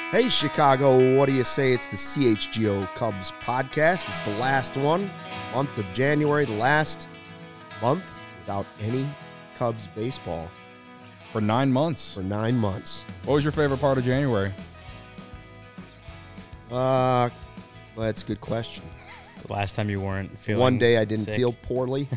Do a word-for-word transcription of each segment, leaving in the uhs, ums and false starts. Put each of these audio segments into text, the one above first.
Hey, Chicago, what do you say? It's the C H G O Cubs podcast. It's the last one, month of January, the last month without any Cubs baseball For nine months. for nine months. What was your favorite part of January? Uh, well, that's a good question. The last time you weren't feeling One day I didn't sick. feel poorly.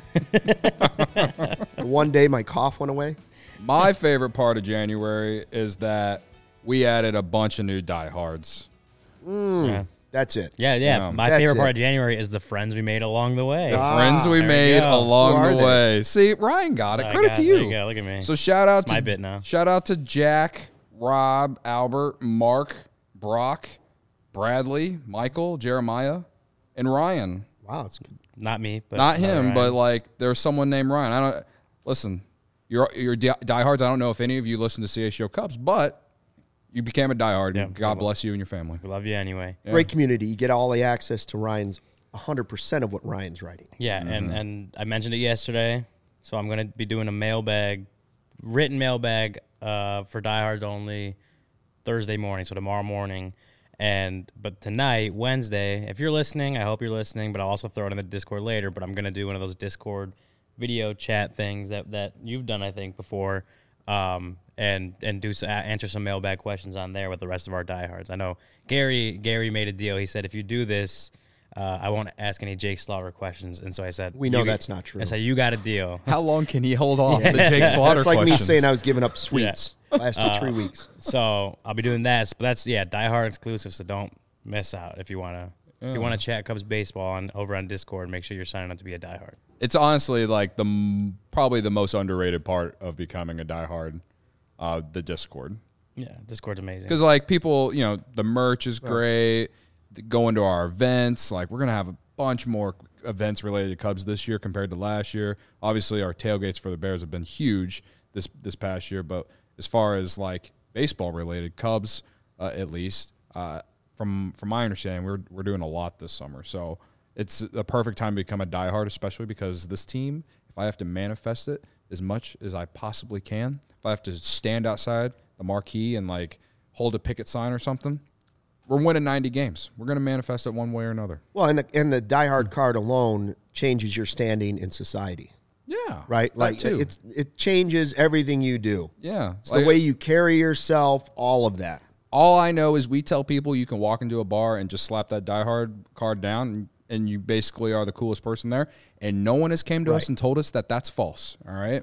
One day my cough went away. My favorite part of January is that we added a bunch of new diehards. Mm, Yeah. That's it. Yeah, yeah. Yeah. My That's favorite part it. of January is the friends we made along the way. The Ah, friends we there we made go. along Who are the they? way. See, Ryan got it. I Credit got to it. you. There you go. Look at me. So shout out It's to my bit now. Shout out to Jack, Rob, Albert, Mark, Brock, Bradley, Michael, Jeremiah, and Ryan. Wow, it's good. Not me, but Not him, Ryan. but like there's someone named Ryan. I don't listen. You're you're di- diehards. I don't know if any of you listen to C H G O Cubs, but you became a diehard. Yeah, and God well, bless you and your family. we love you anyway. Yeah. Great community. You get all the access to Ryan's one hundred percent of what Ryan's writing. Yeah, and and I mentioned it yesterday, so I'm gonna be doing a mailbag, written mailbag, uh, for diehards only, Thursday morning, so tomorrow morning. And but tonight, Wednesday, if you're listening, I hope you're listening, but I'll also throw it in the Discord later. But I'm gonna do one of those Discord video chat things that that you've done, I think, before, um, and and do s- answer some mailbag questions on there with the rest of our diehards. I know Gary Gary made a deal. He said if you do this, uh, I won't ask any Jake Slaughter questions. And so I said, We know you- that's not true. I said you got a deal. How long can he hold off the Jake Slaughter That's like questions? me saying I was giving up sweets last Uh, three weeks. So I'll be doing that. But that's yeah, diehard exclusive. So don't miss out if you wanna if you wanna chat Cubs baseball on over on Discord. Make sure you're signing up to be a diehard. It's honestly like the m- probably the most underrated part of becoming a diehard, uh, the Discord. Yeah, Discord's amazing. Because like people, you know, the merch is great. Going to our events, like we're gonna have a bunch more events related to Cubs this year compared to last year. Obviously, our tailgates for the Bears have been huge this this past year, but as far as like baseball related Cubs, uh, at least uh, from from my understanding, we're we're doing a lot this summer. So it's the perfect time to become a diehard, especially because this team, if I have to manifest it as much as I possibly can, if I have to stand outside the marquee and like hold a picket sign or something, we're winning ninety games. We're going to manifest it one way or another. Well, and the and the diehard card alone changes your standing in society, Yeah. right? that Like too. it's it changes everything you do. yeah. It's Like, the way you carry yourself, all of that. all I know is we tell people you can walk into a bar and just slap that diehard card down and, and you basically are the coolest person there. And no one has came to us Right. and told us that that's false. All right.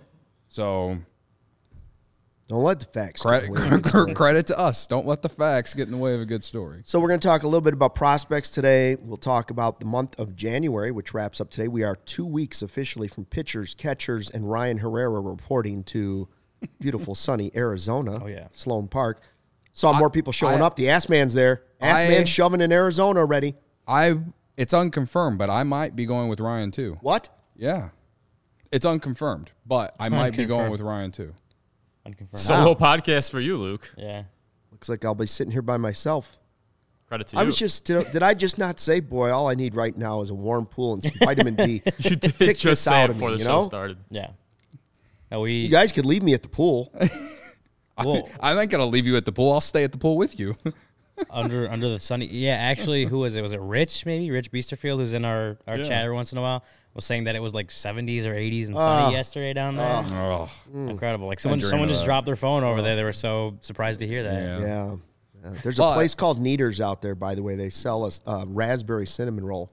So Don't let the facts get credit, in the way of the story. credit to us. Don't let the facts get in the way of a good story. So we're going to talk a little bit about prospects today. We'll talk about the month of January, which wraps up today. We are two weeks officially from pitchers, catchers, and Ryan Herrera reporting to beautiful sunny Arizona. Oh, yeah. Sloan Park. Saw more people showing I- up. The Ass Man's there. Ass I- Man's shoving in Arizona already. I It's unconfirmed, but I might be going with Ryan too. What? Yeah. It's unconfirmed, but I might be going Unconfirmed. with Ryan too. Unconfirmed. Solo podcast for you, Luke. Yeah. Looks like I'll be sitting here by myself. Credit to I you. was just, did, did I just not say, boy, all I need right now is a warm pool and some vitamin D. you did Pick just this say out it of before me, the you show know? started. Yeah. No, we You guys could leave me at the pool. well, I'm not going to leave you at the pool. I'll stay at the pool with you. under under the sunny. Yeah, actually, who was it? Was it Rich? Maybe Rich Beasterfield, who's in our our Yeah. chat every once in a while, was saying that it was like seventies or eighties and sunny Oh. yesterday down there. oh, Incredible! Like someone dream someone of just that. dropped their phone over there. They were so surprised to hear that. Yeah. Yeah. Yeah. There's a But- place called Neaters out there, by the way. They sell a uh, raspberry cinnamon roll.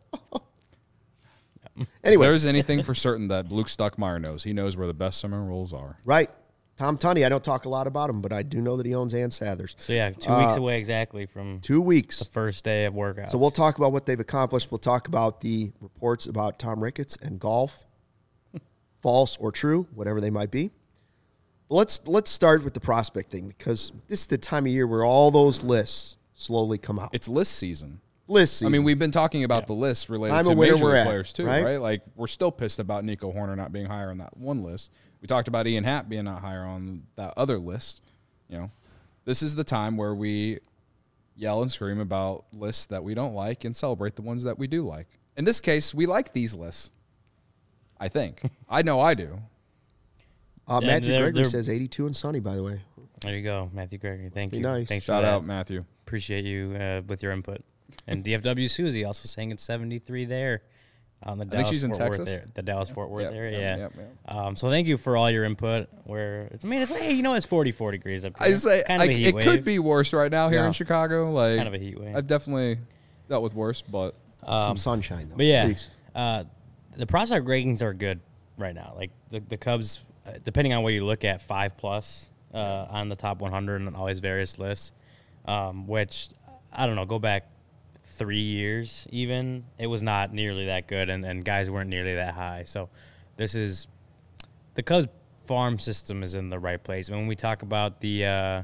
If Anyway, there's anything for certain that Luke Stuckmeyer knows, he knows where the best summer rolls are. right. Tom Tunney, I don't talk a lot about him, but I do know that he owns Ann Sathers. So yeah, two Uh, weeks away exactly from Two weeks. the first day of workouts. So we'll talk about what they've accomplished. We'll talk about the reports about Tom Ricketts and golf, false or true, whatever they might be. But let's let's start with the prospect thing because this is the time of year where all those lists slowly come out. It's list season. List season. I mean, we've been talking about the list related Time to of winter major we're league at, players too, right? right? Like we're still pissed about Nico Horner not being higher on that one list. We talked about Ian Happ being not higher on that other list. You know, this is the time where we yell and scream about lists that we don't like and celebrate the ones that we do like. In this case, we like these lists. I think. I know I do. uh, Yeah, Matthew they're- Gregory they're- says eighty-two and sunny, by the way. There you go, Matthew Gregory. Thank Be you. nice. Thanks Shout for that. out, Matthew. Appreciate you uh, with your input. And D F W Susie also saying it's seventy-three there on the I think Dallas she's in Fort Worth Texas. there, the Dallas Fort Worth Yep, area. yep, Yeah. yep, yep. Um, so thank you for all your input. Where it's, I mean, it's like, hey, you know, it's forty-four degrees up here. I say kind of I, a heat it wave. could be worse right now here Yeah. in Chicago. Like kind of a heat wave. I've definitely dealt with worse, but Um, Some sunshine, though. But yeah, Please. uh, the prospect rankings are good right now. Like the, the Cubs, uh, depending on what you look at, five plus uh, on the top one hundred and all these various lists, um, which I don't know, go back three years even, it was not nearly that good, and, and guys weren't nearly that high. So this is the Cubs farm system is in the right place. When we talk about the uh,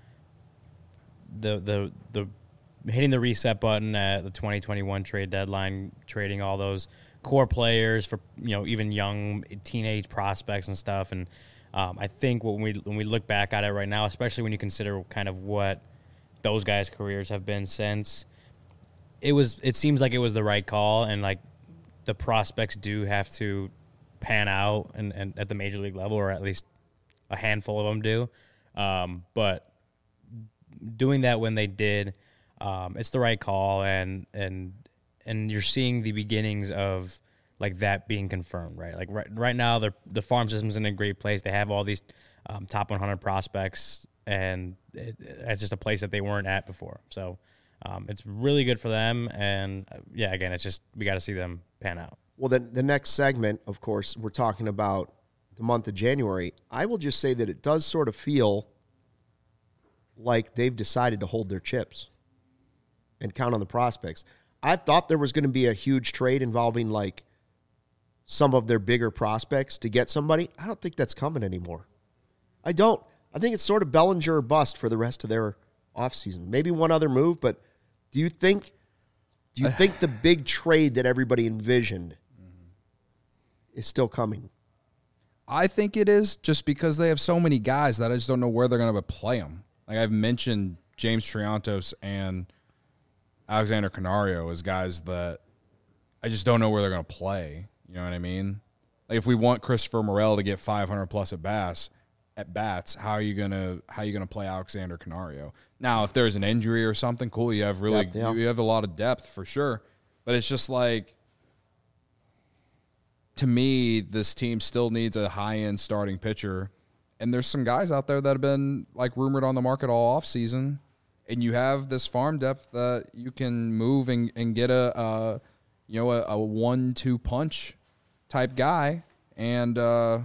the the the hitting the reset button at the twenty twenty-one trade deadline, trading all those core players for, you know, even young teenage prospects and stuff. And um, I think when we when we look back at it right now, especially when you consider kind of what those guys' careers have been since, it was it seems like it was the right call, and like the prospects do have to pan out and, and at the major league level, or at least a handful of them do. Um, but doing that when they did, um, it's the right call, and and and you're seeing the beginnings of like that being confirmed, right? Like right right now, the the farm system's in a great place. They have all these um, top one hundred prospects, and it, it's just a place that they weren't at before. So um, it's really good for them, and uh, yeah, again, it's just we got to see them pan out. Well, then the next segment, of course, we're talking about the month of January. I will just say that it does sort of feel like they've decided to hold their chips and count on the prospects. I thought there was going to be a huge trade involving like some of their bigger prospects to get somebody. I don't think that's coming anymore. I don't. I think it's sort of Bellinger or bust for the rest of their offseason. Maybe one other move, but do you think do you think the big trade that everybody envisioned is still coming? I think it is, just because they have so many guys that I just don't know where they're going to play them. Like I've mentioned James Triantos and Alexander Canario as guys that I just don't know where they're going to play. You know what I mean? Like if we want Christopher Morel to get five hundred plus at bats, at bats, how are you gonna how are you gonna play Alexander Canario? Now, if there's an injury or something, cool. You have really Depth, yeah. you have a lot of depth for sure. But it's just like, to me, this team still needs a high end starting pitcher, and there's some guys out there that have been like rumored on the market all off season. And you have this farm depth that you can move and, and get a, uh, you know, a, a one-two punch type guy. And, uh,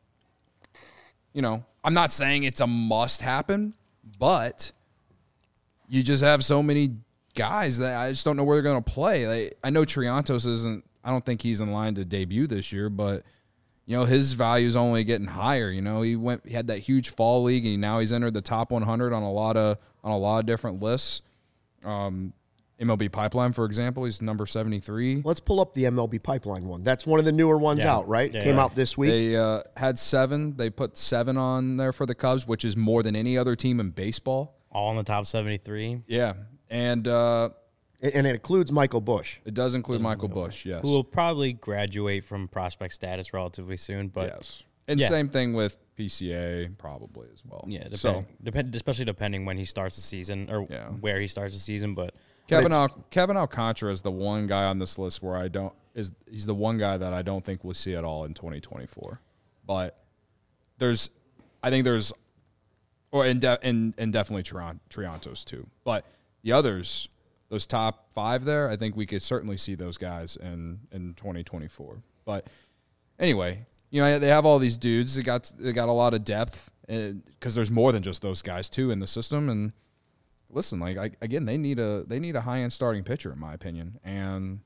you know, I'm not saying it's a must happen, but you just have so many guys that I just don't know where they're going to play. Like, I know Triantos isn't, I don't think he's in line to debut this year, but you know, his value is only getting higher. You know, he went, he had that huge fall league, and now he's entered the top one hundred on a lot of on a lot of different lists. Um, M L B Pipeline, for example, he's number seventy-three. Let's pull up the M L B Pipeline one. That's one of the newer ones Yeah. out, right? Yeah, Came yeah. out this week. They uh, had seven. They put seven on there for the Cubs, which is more than any other team in baseball. All in the top seventy-three. Yeah, and uh, and it includes Michael Bush. it does include Michael Bush. Yes, Who will probably graduate from prospect status relatively soon, but yes, and yeah. same thing with P C A probably as well. yeah, depending, so depend, especially depending when he starts the season or Yeah. where he starts the season. But Kevin it's- Al- Kevin Alcantara is the one guy on this list where I don't is he's the one guy that I don't think we'll see at all in twenty twenty-four. But there's, I think there's, or and de- and, and definitely Trian- Triantos too. But the others, those top five there, I think we could certainly see those guys in in twenty twenty-four. But anyway, you know, they have all these dudes. They got they got a lot of depth because there's more than just those guys too in the system. And listen, like I, again, they need a they need a high end starting pitcher in my opinion, and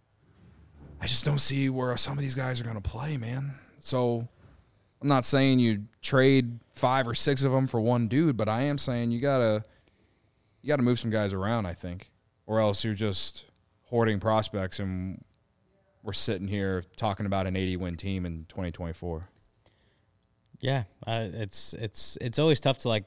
I just don't see where some of these guys are going to play, man. So I'm not saying you trade five or six of them for one dude, but I am saying you gotta you gotta move some guys around, I think, or else you're just hoarding prospects, and we're sitting here talking about an eighty win team in twenty twenty-four. yeah, uh, it's it's it's always tough to like.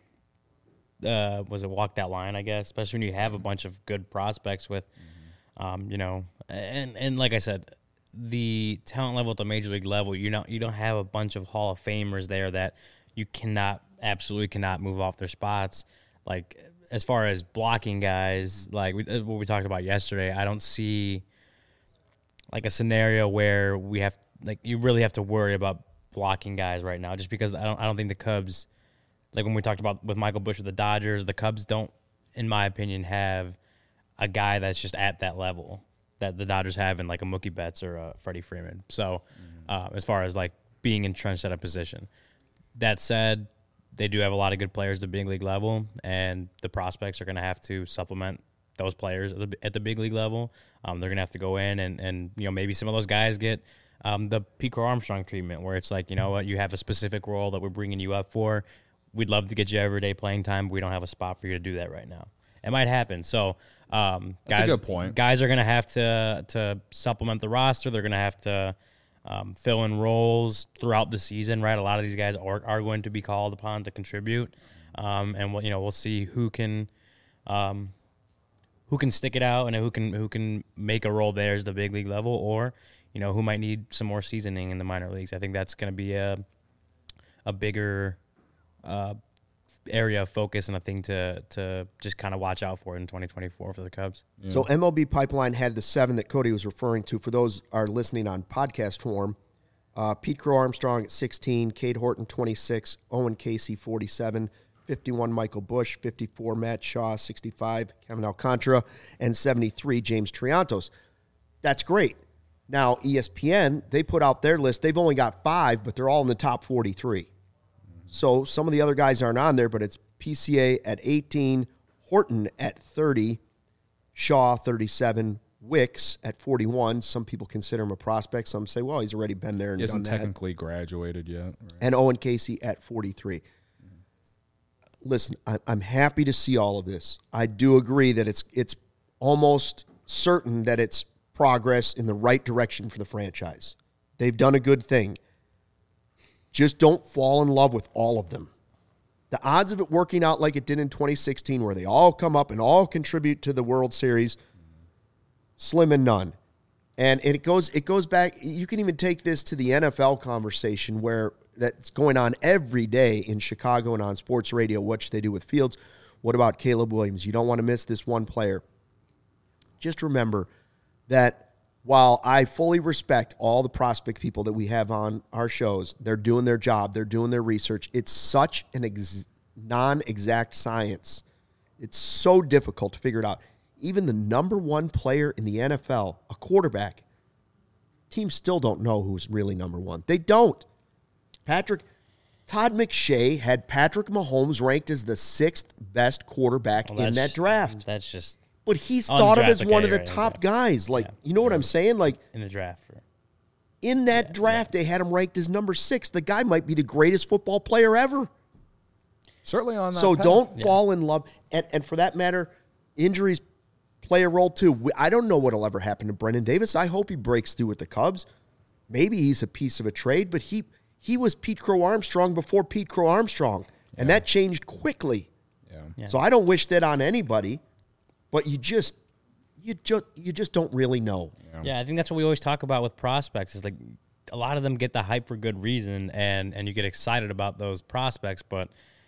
Uh, was it walk that line? I guess, especially when you have a bunch of good prospects with, um, you know, and and like I said, the talent level at the major league level, you know, you don't have a bunch of Hall of Famers there that you cannot, absolutely cannot move off their spots. Like, as far as blocking guys, like we, what we talked about yesterday, I don't see like a scenario where we have, like, you really have to worry about blocking guys right now, just because I don't, I don't think the Cubs, like when we talked about with Michael Busch with the Dodgers, the Cubs don't, in my opinion, have a guy that's just at that level that the Dodgers have in like a Mookie Betts or a Freddie Freeman. So uh, as far as like being entrenched at a position. That said, they do have a lot of good players at the big league level, and the prospects are going to have to supplement those players at the, at the big league level. Um, they're going to have to go in and, and, you know, maybe some of those guys get um, the Pete Crow Armstrong treatment, where it's like, you know what, you have a specific role that we're bringing you up for. We'd love to get you everyday playing time, but we don't have a spot for you to do that right now. It might happen. So, um, That's guys, a good point. guys are going to have to to supplement the roster. They're going to have to um, fill in roles throughout the season, right? A lot of these guys are, are going to be called upon to contribute, um, and we'll, you know, we'll see who can um, who can stick it out and who can who can make a role there as the big league level, or you know, who might need some more seasoning in the minor leagues. I think that's going to be a a bigger uh, area of focus and a thing to to just kind of watch out for in twenty twenty-four for the Cubs. Yeah. So M L B Pipeline had the seven that Cody was referring to. For those are listening on podcast form, uh, Pete Crow Armstrong at sixteen, Cade Horton twenty-six, Owen Casey forty-seven, fifty-one Michael Busch, fifty-four Matt Shaw, sixty-five Kevin Alcantara, and seventy-three James Triantos. That's great. Now E S P N, they put out their list. They've only got five, but they're all in the top forty-three. So some of the other guys aren't on there, but it's P C A at eighteen, Horton at thirty, Shaw thirty-seven, Wicks at forty-one. Some people consider him a prospect. Some say, well, he's already been there and He hasn't done that. technically graduated yet. Right? And Owen Casey at forty-three. Listen, I- I'm happy to see all of this. I do agree that it's it's almost certain that it's progress in the right direction for the franchise. They've done a good thing. Just don't fall in love with all of them. The odds of it working out like it did in twenty sixteen, where they all come up and all contribute to the World Series, slim and none. And it goes it goes back. You can even take this to the N F L conversation, where that's going on every day in Chicago and on sports radio, which they do with Fields. What about Caleb Williams? You don't want to miss this one player. Just remember that while I fully respect all the prospect people that we have on our shows, they're doing their job, they're doing their research. It's such an ex- non-exact science. It's so difficult to figure it out. Even the number one player in the N F L, a quarterback, teams still don't know who's really number one. They don't. Patrick, Todd McShay had Patrick Mahomes ranked as the sixth best quarterback Well, in that's- that draft. That's just But he's On thought the of as draft, one okay, of the right, top okay. guys. Like, Yeah. you know what I'm saying? Like, in the draft. For, in that draft, they had him ranked as number six. The guy might be the greatest football player ever. Certainly on that So path. don't fall in love. And, and for that matter, injuries play a role too. We- I don't know what will ever happen to Brendan Davis. I hope he breaks through with the Cubs. Maybe he's a piece of a trade, but he he was Pete Crow Armstrong before Pete Crow Armstrong, and that changed quickly. Yeah. Yeah. So I don't wish that on anybody, but you just you just you just don't really know. yeah, I think that's what we always talk about with prospects. Is like a lot of them get the hype for good reason, and and you get excited about those prospects, but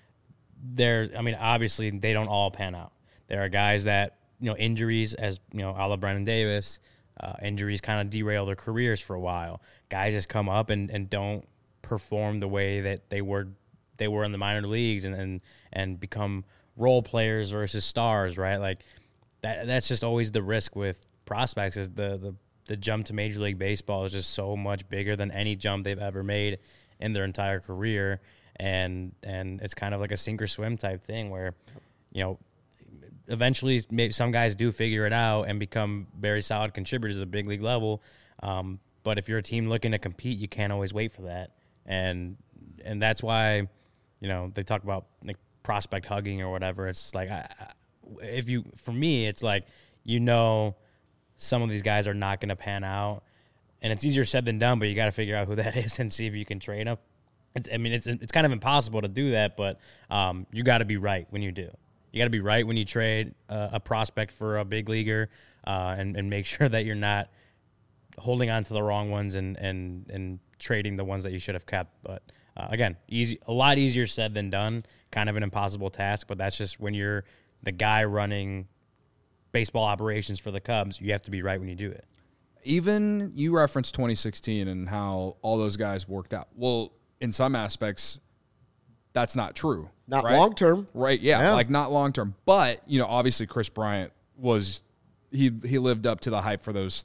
they're, I mean, obviously they don't all pan out. There are guys that, you know, injuries, as you know, a la Brendan Davis, uh, injuries kind of derail their careers for a while. Guys just come up and, and don't perform the way that they were they were in the minor leagues, and and, and become role players versus stars, right? Like that that's just always the risk with prospects, is the the the jump to Major League Baseball is just so much bigger than any jump they've ever made in their entire career. And and it's kind of like a sink or swim type thing where, you know, eventually maybe some guys do figure it out and become very solid contributors at the big league level. Um, but if you're a team looking to compete, you can't always wait for that. And and that's why, you know, they talk about like prospect hugging or whatever. It's like, I, I, if you, for me, it's like, you know, some of these guys are not going to pan out. And it's easier said than done, but you got to figure out who that is and see if you can trade them. It's, I mean, it's it's kind of impossible to do that, but um, you got to be right when you do. You got to be right when you trade uh, a prospect for a big leaguer, uh, and and make sure that you're not holding on to the wrong ones and and and trading the ones that you should have kept. But Uh, again, easy, a lot easier said than done. Kind of an impossible task, but that's just when you're the guy running baseball operations for the Cubs, you have to be right when you do it. Even you referenced twenty sixteen and how all those guys worked out. Well, in some aspects, that's not true. Not right? long term. Right, yeah, Yeah. like not long term. But, you know, obviously Chris Bryant was he he lived up to the hype for those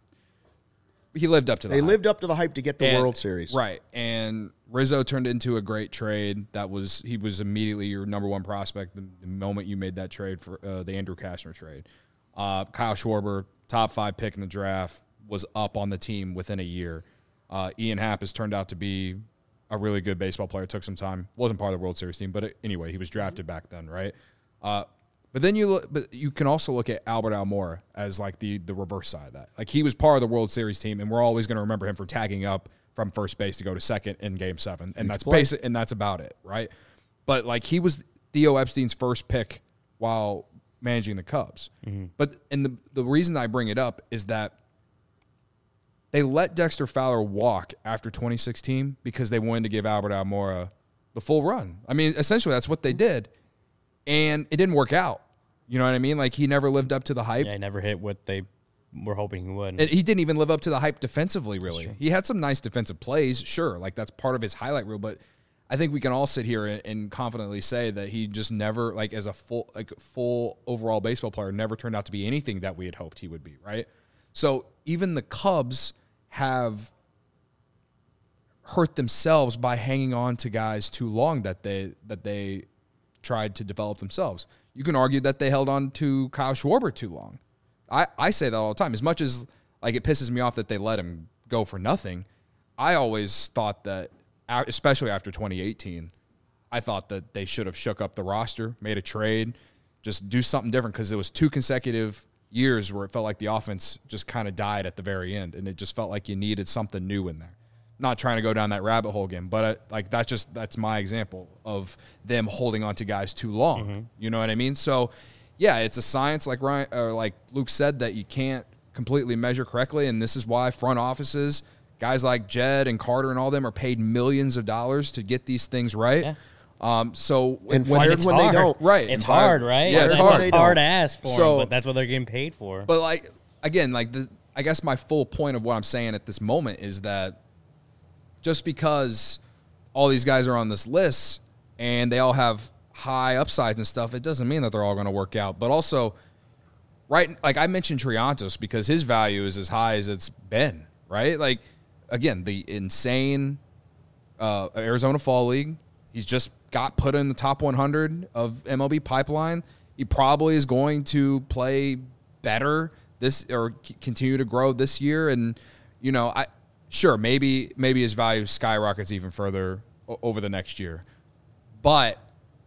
he lived up to the They hype. lived up to the hype to get the And- World Series. Right. And Rizzo turned into a great trade. That was he was immediately your number one prospect the, the moment you made that trade for uh, the Andrew Kastner trade. Uh, Kyle Schwarber, top five pick in the draft, was up on the team within a year. Uh, Ian Happ has turned out to be a really good baseball player. It took some time. Wasn't part of the World Series team, but it, anyway, he was drafted back then, right? Uh, but then you look, but you can also look at Albert Almora as like the the reverse side of that. Like he was part of the World Series team, and we're always going to remember him for tagging up from first base to go to second in Game Seven, and Huge that's play. basic, and that's about it, right? But like he was Theo Epstein's first pick while managing the Cubs. But and the the reason I bring it up is that they let Dexter Fowler walk after twenty sixteen because they wanted to give Albert Almora the full run. I mean, essentially that's what they did, and it didn't work out. You know what I mean? Like he never lived up to the hype. Yeah, he never hit what they were hoping he would. And he didn't even live up to the hype defensively, really. He had some nice defensive plays, sure. Like, that's part of his highlight reel. But I think we can all sit here and, and confidently say that he just never, like, as a full like full overall baseball player, never turned out to be anything that we had hoped he would be, right? So even the Cubs have hurt themselves by hanging on to guys too long that they that they tried to develop themselves. You can argue that they held on to Kyle Schwarber too long. I, I say that all the time. As much as like it pisses me off that they let him go for nothing, I always thought that, especially after twenty eighteen, I thought that they should have shook up the roster, made a trade, just do something different because it was two consecutive years where it felt like the offense just kind of died at the very end, and it just felt like you needed something new in there. Not trying to go down that rabbit hole again, but uh, like that's just that's my example of them holding on to guys too long. Mm-hmm. You know what I mean? So, yeah, it's a science, like Ryan or like Luke said, that you can't completely measure correctly, and this is why front offices, guys like Jed and Carter and all them, are paid millions of dollars to get these things right. Yeah. Um, so And when, fired it's when hard. they don't. right, It's and fired- hard, right? Yeah, it's That's hard. hard to ask for, So- them, but that's what they're getting paid for. But like again, like the I guess my full point of what I'm saying at this moment is that just because all these guys are on this list and they all have high upsides and stuff, it doesn't mean that they're all going to work out. But also, right, like I mentioned Triantos because his value is as high as it's been, right? Like, again, the insane uh, Arizona Fall League, he's just got put in the top one hundred of M L B Pipeline. He probably is going to play better this or c- continue to grow this year. And, you know, I sure, maybe maybe his value skyrockets even further o- over the next year. But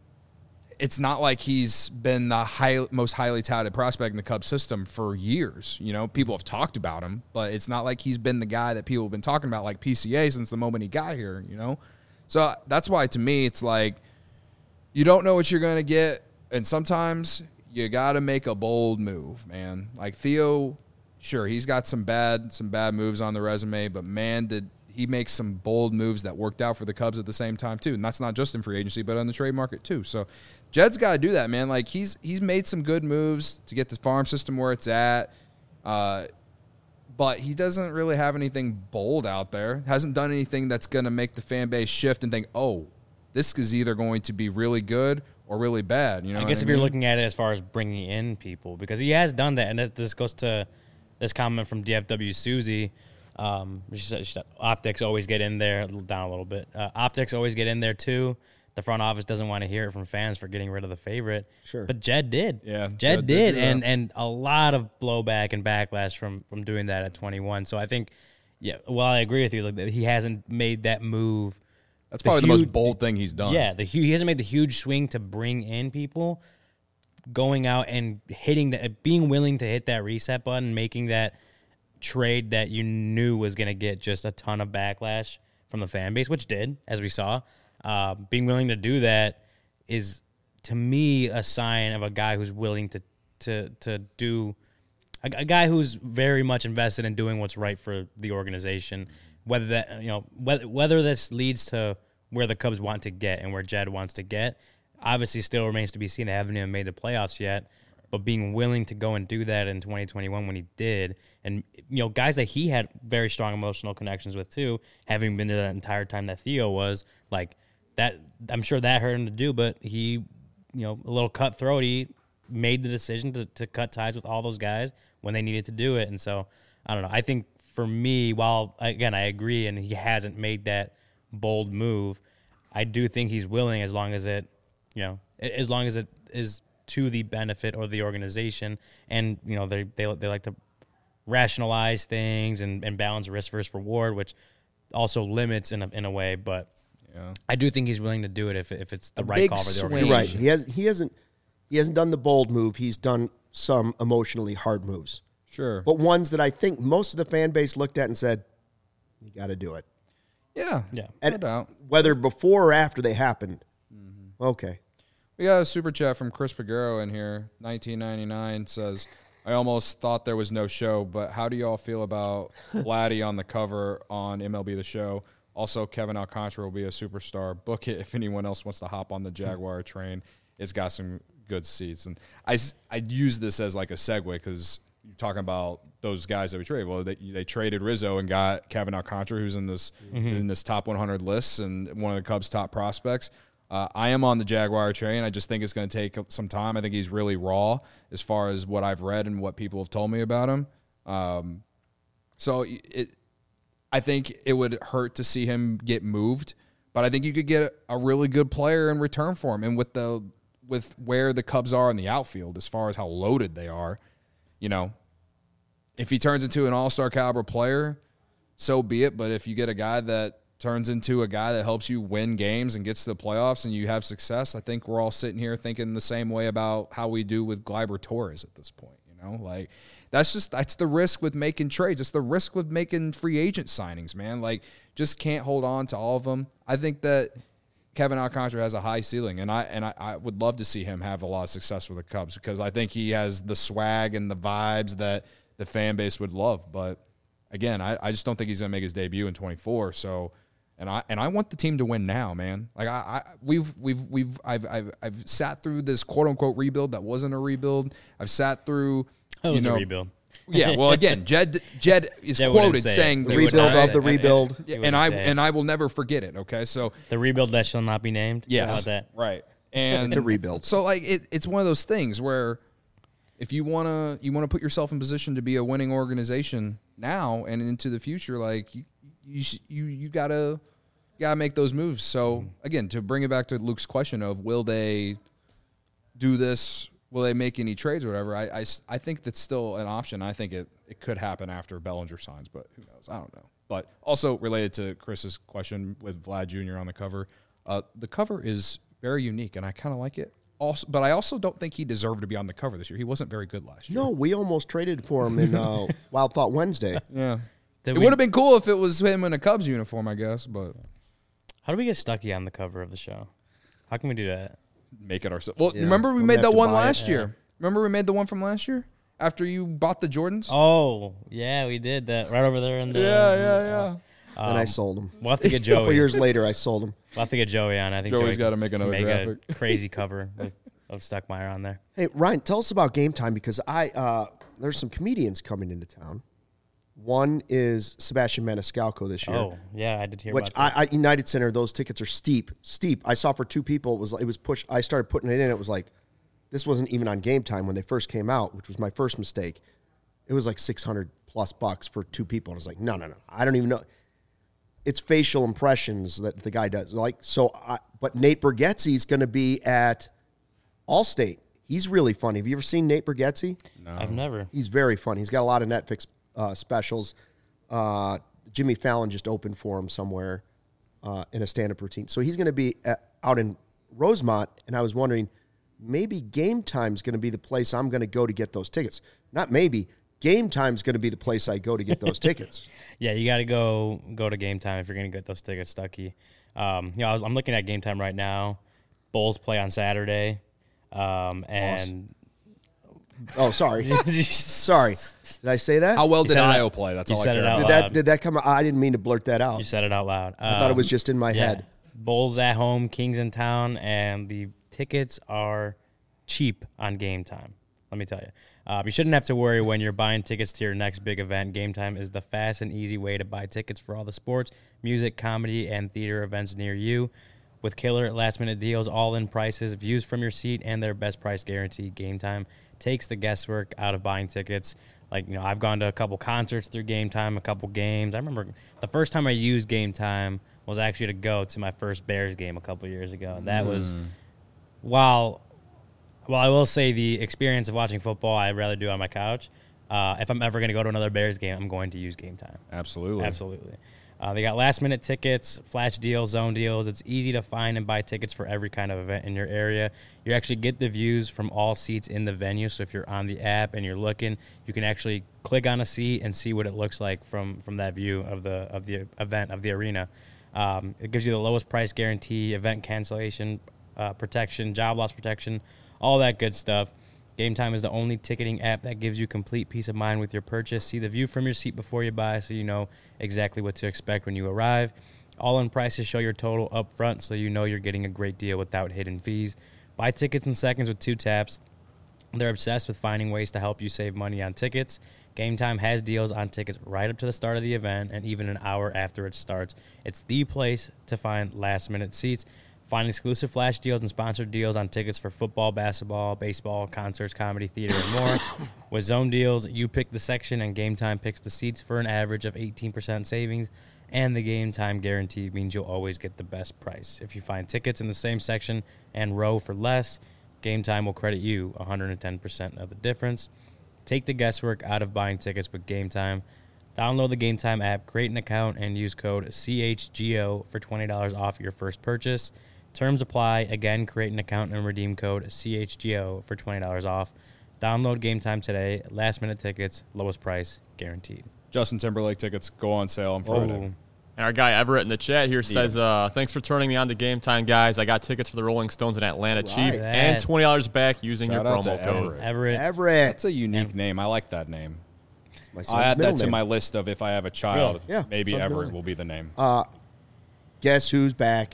it's not like he's been the high, most highly touted prospect in the Cubs system for years. You know, people have talked about him, but it's not like he's been the guy that people have been talking about like P C A since the moment he got here, you know? So that's why, to me, it's like you don't know what you're going to get, and sometimes you got to make a bold move, man. Like Theo, sure, he's got some bad some bad moves on the resume, but man, did he make some bold moves that worked out for the Cubs at the same time too. And that's not just in free agency, but on the trade market too. So Jed's got to do that, man. Like he's he's made some good moves to get the farm system where it's at. Uh, but he doesn't really have anything bold out there. Hasn't done anything that's going to make the fan base shift and think, "Oh, this is either going to be really good or really bad." You know, I what guess if mean? you're looking at it as far as bringing in people, because he has done that, and this, this goes to this comment from D F W Susie. Um, she said, she said, optics always get in there, a little down a little bit. Uh, optics always get in there too. The front office doesn't want to hear it from fans for getting rid of the favorite. Sure. But Jed did. Yeah, Jed, Jed did did, do and that. and a lot of blowback and backlash from from doing that at twenty-one. So I think, yeah, well, I agree with you. Like, that he hasn't made that move. That's the probably the most huge- bold thing he's done. Yeah, the hu- he hasn't made the huge swing to bring in people, going out and hitting that, being willing to hit that reset button, making that trade that you knew was going to get just a ton of backlash from the fan base, which did, as we saw. Uh, being willing to do that is, to me, a sign of a guy who's willing to to to do a, a guy who's very much invested in doing what's right for the organization. Whether that you know whether whether this leads to where the Cubs want to get and where Jed wants to get. Obviously, still remains to be seen. They haven't even made the playoffs yet. But being willing to go and do that in twenty twenty-one when he did, and you know, guys that he had very strong emotional connections with too, having been there that entire time that Theo was, like that, I'm sure that hurt him to do. But he, you know, a little cutthroat. He made the decision to to cut ties with all those guys when they needed to do it. And so I don't know. I think for me, while again I agree, and he hasn't made that bold move, I do think he's willing as long as it, you know, as long as it is to the benefit or the organization, and you know they they they like to rationalize things and, and balance risk versus reward, which also limits in a in a way. But Yeah. I do think he's willing to do it if if it's the A right big call for the swing. organization. Right. He has he hasn't he hasn't done the bold move. He's done some emotionally hard moves, Sure. but ones that I think most of the fan base looked at and said, "You got to do it." yeah. Yeah. No And doubt. whether before or after they happened, okay. We got a super chat from Chris Pagero in here. nineteen ninety-nine says, I almost thought there was no show, but how do y'all feel about Vladdy on the cover on M L B The Show? Also, Kevin Alcantara will be a superstar. Book it if anyone else wants to hop on the Jaguar train. It's got some good seats. And I, s- I use this as like a segue because you're talking about those guys that we traded. Well, they, they traded Rizzo and got Kevin Alcantara, who's in this in this top one hundred list and one of the Cubs' top prospects. Uh, I am on the Jaguar train. I just think it's going to take some time. I think he's really raw as far as what I've read and what people have told me about him. Um, so it, I think it would hurt to see him get moved, but I think you could get a really good player in return for him. And with the with where the Cubs are in the outfield, as far as how loaded they are, you know, if he turns into an all-star caliber player, so be it. But if you get a guy that turns into a guy that helps you win games and gets to the playoffs and you have success, I think we're all sitting here thinking the same way about how we do with Gleyber Torres at this point. You know, like that's just that's the risk with making trades. It's the risk with making free agent signings, man. Like just can't hold on to all of them. I think that Kevin Alcantara has a high ceiling, and I and I, I would love to see him have a lot of success with the Cubs because I think he has the swag and the vibes that the fan base would love. But again, I, I just don't think he's going to make his debut in twenty-four. So. And I and I want the team to win now, man. Like I, I we've we've we've I've I've I've sat through this quote unquote rebuild that wasn't a rebuild. I've sat through That you was know, a rebuild. Yeah, well again, Jed Jed is Jed wouldn't quoted say it. saying The they rebuild would- of the and- rebuild. and, He and wouldn't I say it. and I will never forget it. Okay, so The rebuild that shall not be named. yes, How about that? right, and It's a rebuild. So like it, it's one of those things where if you wanna you wanna put yourself in position to be a winning organization now and into the future, like you you you, you gotta. Got to make those moves. So, again, to bring it back to Luke's question of will they do this, will they make any trades or whatever, I, I, I think that's still an option. I think it, it could happen after Bellinger signs, but who knows? I don't know. But also related to Chris's question with Vlad Junior on the cover, uh, the cover is very unique, and I kind of like it. Also, but I also don't think he deserved to be on the cover this year. He wasn't very good last year. No, we almost traded for him in uh, Wild Thought Wednesday. Yeah. Did It we- would have been cool if it was him in a Cubs uniform, I guess, but How do we get Stuckey on the cover of the show? How can we do that? make it ourselves. Well, Yeah, remember we we'll made have that to one buy it. last Yeah. year. Remember we made the one from last year after you bought the Jordans. Oh, yeah, we did that right over there in the. yeah, yeah, yeah. and I sold him. We'll have to get A couple Joey. years later, I sold him. We'll have to get Joey on. I think Joey's Joey gotta can make another make graphic. a crazy cover with, of Stuckmeyer on there. Hey, Ryan, tell us about Game Time because I uh, there's some comedians coming into town. One is Sebastian Maniscalco this year. Oh, yeah, I did hear Which about that. I, I United Center, those tickets are steep, steep. I saw for two people, it was it was pushed. I started putting it in. It was like, this wasn't even on Game Time when they first came out, which was my first mistake. It was like six hundred plus bucks for two people. And I was like, no, no, no, I don't even know. It's facial impressions that the guy does. Like so, I, but Nate Bargatze's going to be at Allstate. He's really funny. Have you ever seen Nate Bargatze? I've never. He's very funny. He's got a lot of Netflix uh, specials. Uh, Jimmy Fallon just opened for him somewhere uh, in a stand-up routine. So he's going to be at, out in Rosemont, and I was wondering, maybe Game Time's going to be the place I'm going to go to get those tickets. Not maybe. Game Time's going to be the place I go to get those tickets. Yeah, you got to go go to Game Time if you're going to get those tickets, Stuckey. Um, you know, I was, I'm looking at Game Time right now. Bulls play on Saturday. Um, and Oh, sorry. sorry. Did I say that? How well You did said it Io out- play? That's you all I said care it out about. did loud. that did that come out? I didn't mean to blurt that out. You said it out loud. I thought it was just in my yeah. head. Bulls at home, Kings in town, and the tickets are cheap on Game Time. Let me tell you. Uh, you shouldn't have to worry when you're buying tickets to your next big event. Game Time is the fast and easy way to buy tickets for all the sports, music, comedy, and theater events near you. With killer last-minute deals, all-in prices, views from your seat, and their best price guarantee, Game Time takes the guesswork out of buying tickets. Like, you know, I've gone to a couple concerts through Game Time, a couple games. I remember the first time I used Game Time was actually to go to my first Bears game a couple years ago. And that mm. was, while, while I will say the experience of watching football I'd rather do on my couch, uh, if I'm ever going to go to another Bears game, I'm going to use Game Time. Absolutely. Absolutely. Uh, they got last-minute tickets, flash deals, zone deals. It's easy to find and buy tickets for every kind of event in your area. You actually get the views from all seats in the venue. So if you're on the app and you're looking, you can actually click on a seat and see what it looks like from, from that view of the of the event, of the arena. Um, it gives you the lowest price guarantee, event cancellation uh, protection, job loss protection, all that good stuff. Game Time is the only ticketing app that gives you complete peace of mind with your purchase. See the view from your seat before you buy so you know exactly what to expect when you arrive. All-in prices show your total up front so you know you're getting a great deal without hidden fees. Buy tickets in seconds with two taps. They're obsessed with finding ways to help you save money on tickets. Game Time has deals on tickets right up to the start of the event and even an hour after it starts. It's the place to find last-minute seats. Find exclusive flash deals and sponsored deals on tickets for football, basketball, baseball, concerts, comedy, theater, and more. With zone deals, you pick the section and Game Time picks the seats for an average of eighteen percent savings. And the Game Time guarantee means you'll always get the best price. If you find tickets in the same section and row for less, Game Time will credit you one hundred ten percent of the difference. Take the guesswork out of buying tickets with Game Time. Download the Game Time app, create an account, and use code C H G O for twenty dollars off your first purchase. Terms apply. Again, create an account and redeem code C H G O for twenty dollars off. Download Game Time today. Last-minute tickets, lowest price, guaranteed. Justin Timberlake tickets go on sale on Friday. And our guy Everett in the chat here says, uh, thanks for turning me on to Game Time, guys. I got tickets for the Rolling Stones in Atlanta Right. cheap and twenty dollars back using Shout your out promo to code. Everett. Everett. Everett. That's a unique name. I like that name. My son's I'll add middle that to name. my list of if I have a child, Yeah, maybe son's middle Everett name. will be the name. Uh, guess who's back?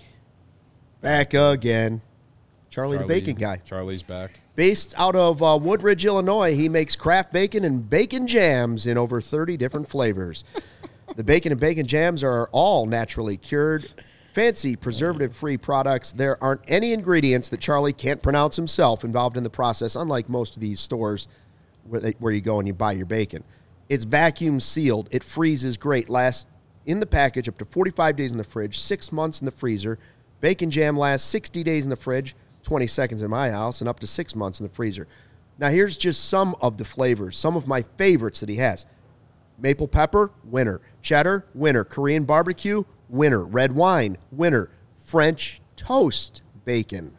Back again. Charlie, the Charlie- Bacon Guy. Charlie's back. Based out of uh, Woodridge, Illinois, he makes craft bacon and bacon jams in over thirty different flavors. The bacon and bacon jams are all naturally cured, fancy preservative-free products. There aren't any ingredients that Charlie can't pronounce himself involved in the process, unlike most of these stores where, they, where you go and you buy your bacon. It's vacuum sealed. It freezes great. Lasts in the package up to forty-five days in the fridge, six months in the freezer. Bacon jam lasts sixty days in the fridge, twenty seconds in my house, and up to six months in the freezer. Now, here's just some of the flavors, some of my favorites that he has. Maple pepper, winner. Cheddar, winner. Korean barbecue, winner. Red wine, winner. French toast bacon.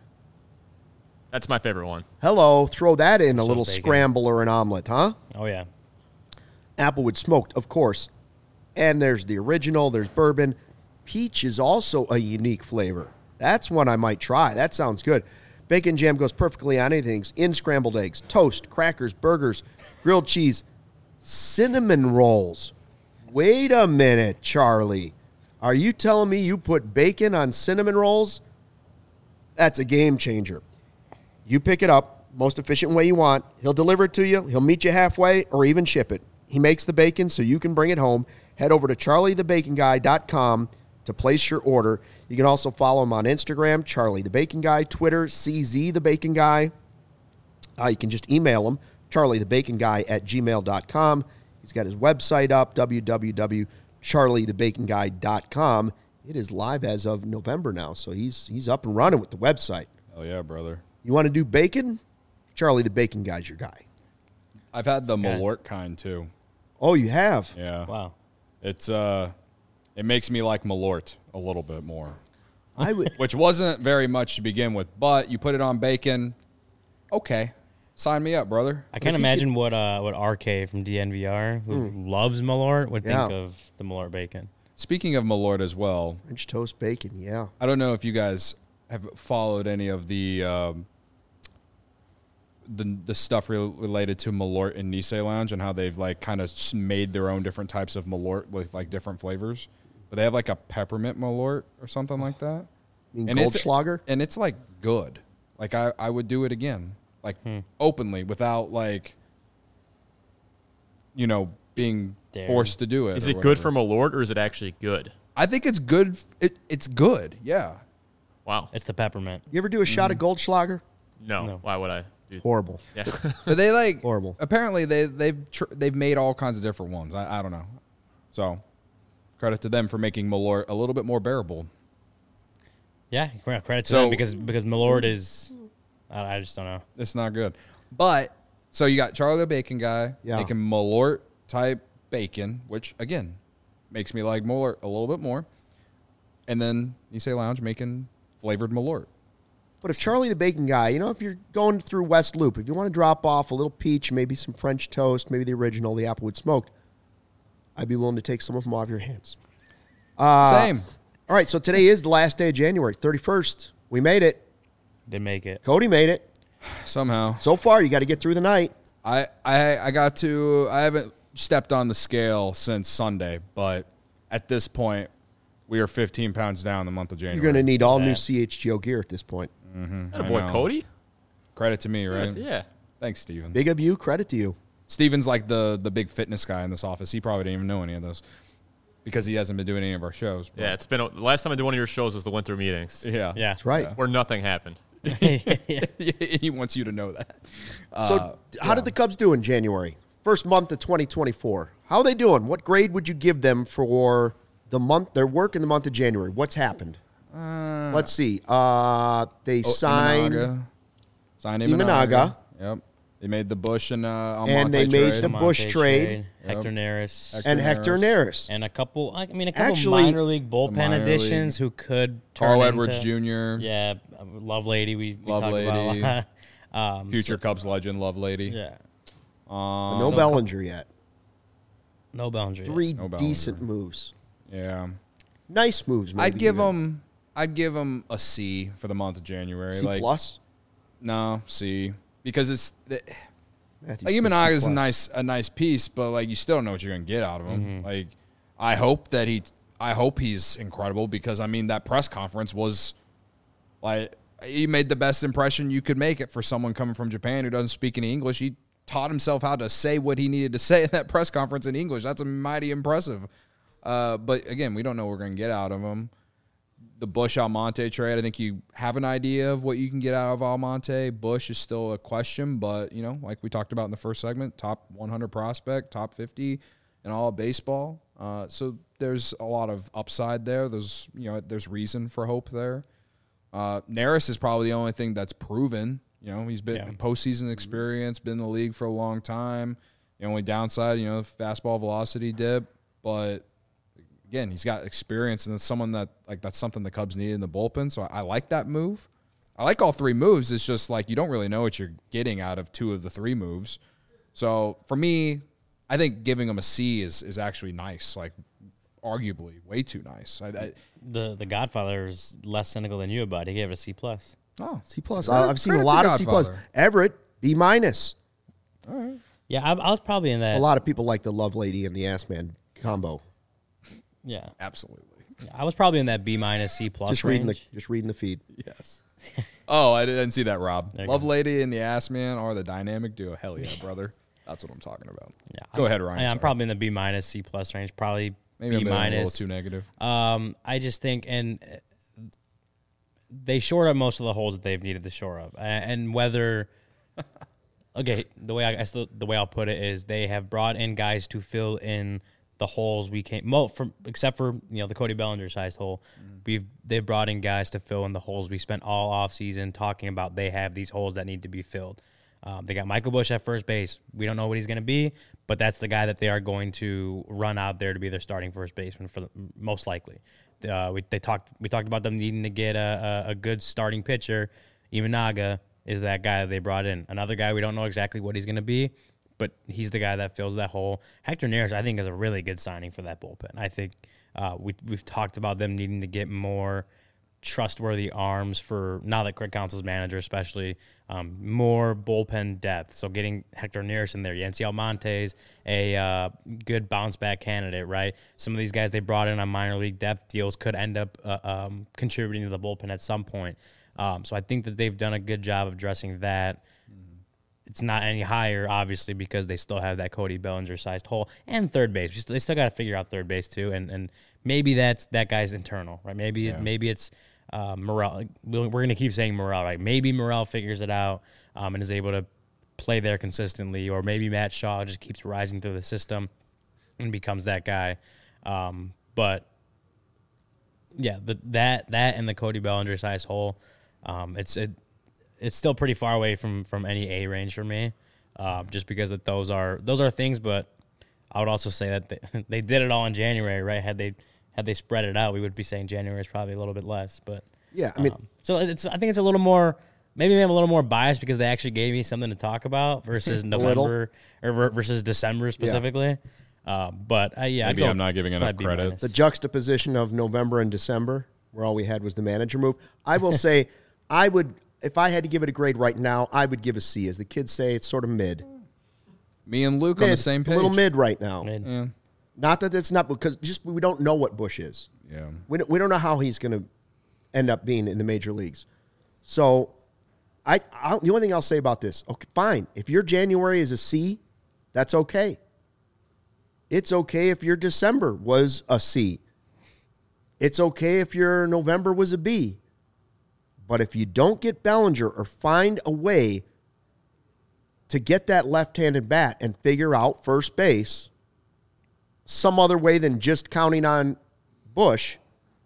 That's my favorite one. Hello, throw that in a Toast little bacon. scramble or an omelet, huh? Oh, yeah. Applewood smoked, of course. And there's the original, there's bourbon. Peach is also a unique flavor. That's one I might try. That sounds good. Bacon jam goes perfectly on anything. In scrambled eggs, toast, crackers, burgers, grilled cheese, cinnamon rolls. Wait a minute, Charlie. Are you telling me you put bacon on cinnamon rolls? That's a game changer. You pick it up, most efficient way you want. He'll deliver it to you. He'll meet you halfway or even ship it. He makes the bacon so you can bring it home. Head over to charlie the bacon guy dot com to place your order. You can also follow him on Instagram, Charlie the Bacon Guy, Twitter, C Z the Bacon Guy. Uh, you can just email him, charlie the bacon guy at gmail dot com. He's got his website up, w w w dot charlie the bacon guy dot com. It is live as of November now, so he's he's up and running with the website. Oh, yeah, brother. You want to do bacon? Charlie the Bacon Guy's your guy. I've had the Okay. Malort kind, too. Oh, you have? Yeah. Wow. It's, uh, it makes me like Malort a little bit more, I would. which wasn't very much to begin with, but you put it on bacon. Okay. Sign me up, brother. I can't you imagine what uh, what R K from D N V R, who loves Malort, would Yeah. think of the Malort bacon. Speaking of Malort as well, French toast bacon, yeah. I don't know if you guys have followed any of the um, the the stuff re- related to Malort and Nice Lounge and how they've like kind of made their own different types of Malort with like different flavors. But they have like a peppermint Malort or something like that. You mean And it's- Goldschlager? and it's like good. Like I, I would do it again, like openly, without like, you know, being Daring. forced to do it. Is or it good whatever. for Malort or is it actually good? I think it's good. It, it's good. Yeah. Wow. It's the peppermint. You ever do a shot of Goldschlager? No. No. Why would I? Do Horrible. Yeah. But they like Horrible. Apparently they they've tr- they've made all kinds of different ones. I, I don't know. So credit to them for making Malort a little bit more bearable. Yeah, credit to So- them because because Malort is. I, I just don't know. It's not good. But so you got Charlie the Bacon Guy Yeah. making Malort type bacon, which again makes me like Malort a little bit more. And then you say Lounge making flavored Malort. But if Charlie the Bacon Guy, you know, if you're going through West Loop, if you want to drop off a little peach, maybe some French toast, maybe the original, the Applewood smoked, I'd be willing to take some of them off your hands. Uh, Same. All right, so today is the last day of January, thirty-first. We made it. Didn't make it. Cody made it. Somehow. So far, you got to get through the night. I, I I got to I haven't stepped on the scale since Sunday, but at this point we are fifteen pounds down the month of January. You're going to need all new that. C H G O gear at this point. That I boy know. Cody? Credit to me, right? Yeah. Thanks, Steven. Big of you, credit to you. Steven's like the the big fitness guy in this office. He probably didn't even know any of this because he hasn't been doing any of our shows. but- Yeah, it's been a, the last time I did one of your shows was the winter meetings yeah, Yeah, That's right. where nothing happened. he wants you to know that. So, Uh, how did the Cubs do in January? First month of twenty twenty-four. How are they doing? What grade would you give them for the month, their work in the month of January? What's happened? Uh, Let's see. Uh, they oh, signed, Imanaga. Signed Imanaga. Imanaga. Yep. They made the Bush and uh, Almonte And they made trade. the Monte Bush trade. Hector Neris, Hector and Hector Neris. and a couple. I mean, a couple Actually, minor league bullpen minor additions who could turn Carl into, Edwards Junior Yeah, Love Lady. We, we Love talked about Lady. a lot. um, Future Cubs legend, Love Lady. so- yeah, Um, no so- Bellinger yet. no boundary. Three No Bellinger. decent moves. yeah. Nice moves, maybe. I'd give even. them. I'd give them a C for the month of January. C like plus. no C because it's the, Matthew like Smith, Imanaga C is a plus. nice a nice piece, but like you still don't know what you're gonna get out of him. Like I hope that he. I hope he's incredible because I mean that press conference was like he made the best impression you could make it for someone coming from Japan who doesn't speak any English. He taught himself how to say what he needed to say in that press conference in English. That's mighty impressive. Uh, but again, we don't know what we're going to get out of him. The Bush Almonte trade, I think you have an idea of what you can get out of Almonte. Bush is still a question, but, you know, like we talked about in the first segment, top one hundred prospect, top fifty in all of baseball. Uh, so there's a lot of upside there. There's, you know, there's reason for hope there. Uh, Neris is probably the only thing that's proven. You know, he's been Yeah. postseason experience, been in the league for a long time. The only downside, you know, fastball velocity dip, but again, he's got experience, and it's someone that like that's something the Cubs need in the bullpen. So I, I like that move. I like all three moves. It's just like you don't really know what you're getting out of two of the three moves. So for me, I think giving him a C is is actually nice. Like arguably way too nice. I, I, The the Godfather is less cynical than you about it. He gave it a C plus. oh, C plus. Credit- I've seen a credit to lot of C plus. Godfather. Everett B minus. Yeah, I, I was probably in that. A lot of people like the Love Lady and the Ass Man combo. Yeah, absolutely. I was probably in that B minus C plus Just range. reading the just reading the feed. Yes. Oh, I didn't see that, Rob. There you Love go. Lady and the Ass Man are the dynamic duo. Hell yeah, brother. That's what I'm talking about. Yeah, Go I'm, ahead, Ryan. Yeah, I'm Sorry. probably in the B minus C plus range. Probably Maybe B I'm being a little minus. too negative. Um, I just think, and uh, they shored up most of the holes that they've needed to shore up, A- and whether. Okay, the way I, I still, the way I'll put it is they have brought in guys to fill in the holes we can't. Mo, from except for you know the Cody Bellinger sized hole, we've they've brought in guys to fill in the holes we spent all off season talking about. They have these holes that need to be filled. Um, they got Michael Bush at first base. We don't know what he's going to be, but that's the guy that they are going to run out there to be their starting first baseman for the, most likely. Uh, we they talked we talked about them needing to get a, a, a good starting pitcher. Imanaga is that guy that they brought in. Another guy we don't know exactly what he's going to be, but he's the guy that fills that hole. Hector Neris, I think, is a really good signing for that bullpen. I think uh, we we've talked about them needing to get more trustworthy arms for now that Craig Counsell's manager, especially um, more bullpen depth. So getting Hector Neris in there, Yancy Almonte's a uh, good bounce back candidate, right? Some of these guys they brought in on minor league depth deals could end up uh, um, contributing to the bullpen at some point. Um, so I think that they've done a good job of addressing that. It's not any higher, obviously, because they still have that Cody Bellinger-sized hole and third base. They still got to figure out third base too, and and maybe that's that guy's internal, right? Maybe Yeah. maybe it's uh, Morel. We're going to keep saying Morel, right? Maybe Morel figures it out um, and is able to play there consistently, or maybe Matt Shaw just keeps rising through the system and becomes that guy. Um, but yeah, the, that that and the Cody Bellinger-sized hole, um, it's it. It's still pretty far away from, from any A range for me, uh, just because that those are those are things. But I would also say that they, they did it all in January, right? Had they had they spread it out, we would be saying January is probably a little bit less. But Yeah, I mean, um, so it's I think it's a little more. Maybe I'm a little more biased because they actually gave me something to talk about versus November or ver- versus December specifically. Uh, but uh, yeah, Maybe I'd go I'm not giving enough probably B credit. minus. the juxtaposition of November and December, where all we had was the manager move. I will say, I would, if I had to give it a grade right now, I would give a C. As the kids say, it's sort of mid. Me and Luke Mid. on the same It's page. a little mid right now. Mid. Yeah. Not that it's not, because just we don't know what Bush is. Yeah. We don't, we don't know how he's going to end up being in the major leagues. So, I, I the only thing I'll say about this, okay, fine. If your January is a C, that's okay. It's okay if your December was a C. It's okay if your November was a B. But if you don't get Bellinger or find a way to get that left-handed bat and figure out first base some other way than just counting on Bush,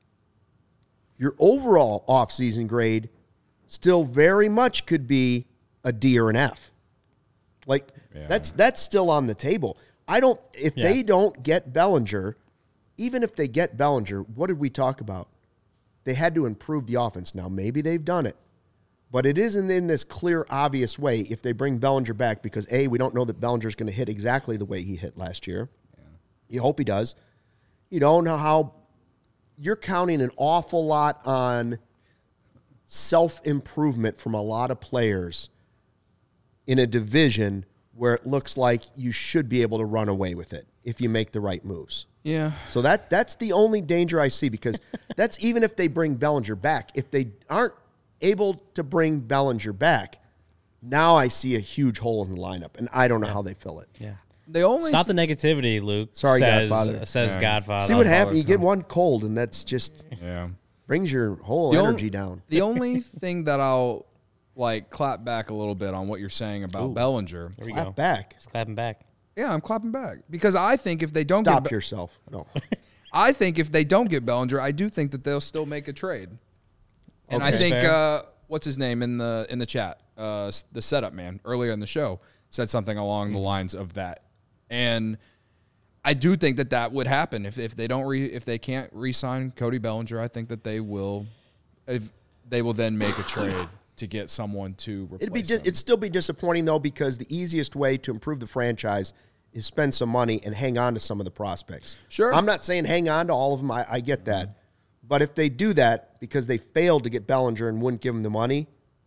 your overall offseason grade still very much could be a D or an F. Like, Yeah. that's that's still on the table. I don't, if Yeah. they don't get Bellinger, even if they get Bellinger, what did we talk about? They had to improve the offense. Now, maybe they've done it, but it isn't in this clear, obvious way if they bring Bellinger back because, A, we don't know that Bellinger's going to hit exactly the way he hit last year. Yeah. You hope he does. You don't know how you're counting an awful lot on self-improvement from a lot of players in a division where it looks like you should be able to run away with it if you make the right moves. Yeah. So that that's the only danger I see, because that's even if they bring Bellinger back. If they aren't able to bring Bellinger back, now I see a huge hole in the lineup, and I don't know how they fill it. Yeah. The only Stop the negativity, Luke. Sorry, says, Godfather. Says Yeah. Godfather. See what happens? You get one cold, and that's just yeah. brings your whole The on- energy down. The only thing that I'll like clap back a little bit on what you're saying about Ooh. Bellinger. There we Clap go. back. Just clapping back. Yeah, I'm clapping back because I think if they don't Stop get Be- yourself. No. I think if they don't get Bellinger, I do think that they'll still make a trade. And I Okay. think Fair. uh, what's his name in the in the chat, uh, s- the setup man earlier in the show said something along the lines of that, and I do think that that would happen if if they don't re, if they can't re-sign Cody Bellinger. I think that they will, if they will then make a trade to get someone to replace It'd be di- him. it'd still be disappointing though, because the easiest way to improve the franchise is spend some money and hang on to some of the prospects. Sure. I'm not saying hang on to all of them. I, I get that, but if they do that because they failed to get Bellinger and wouldn't give him the money,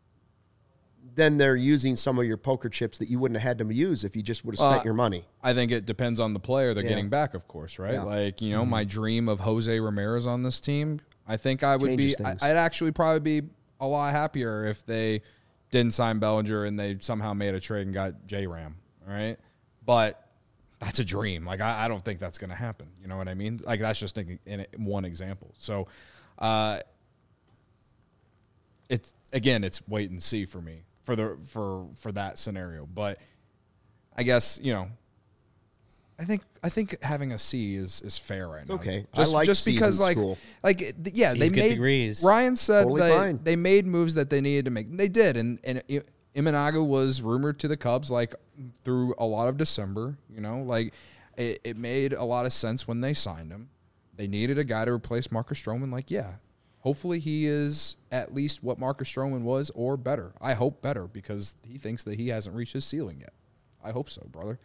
then they're using some of your poker chips that you wouldn't have had to use if you just would have spent Uh, your money. I think it depends on the player they're Yeah. getting back, of course, right? Yeah. Like, you know, my dream of Jose Ramirez on this team, I think I would Changes be, I, things. I'd actually probably be a lot happier if they didn't sign Bellinger and they somehow made a trade and got J-Ram, all right? But that's a dream. Like, I, I don't think that's going to happen. You know what I mean? Like, that's just in, in one example. So, uh, it's, again, it's wait and see for me for the, for, for that scenario. But I guess, you know, I think I think having a C is, is fair right now. okay. I Just, like just C's because in like school. like th- yeah, C's they get made degrees. Ryan said Totally they, fine. they made moves that they needed to make. They did, and and I- Imanaga was rumored to the Cubs like through a lot of December. You know, like it, it made a lot of sense when they signed him. They needed a guy to replace Marcus Stroman. Like, yeah, hopefully he is at least what Marcus Stroman was or better. I hope better because he thinks that he hasn't reached his ceiling yet. I hope so, brother.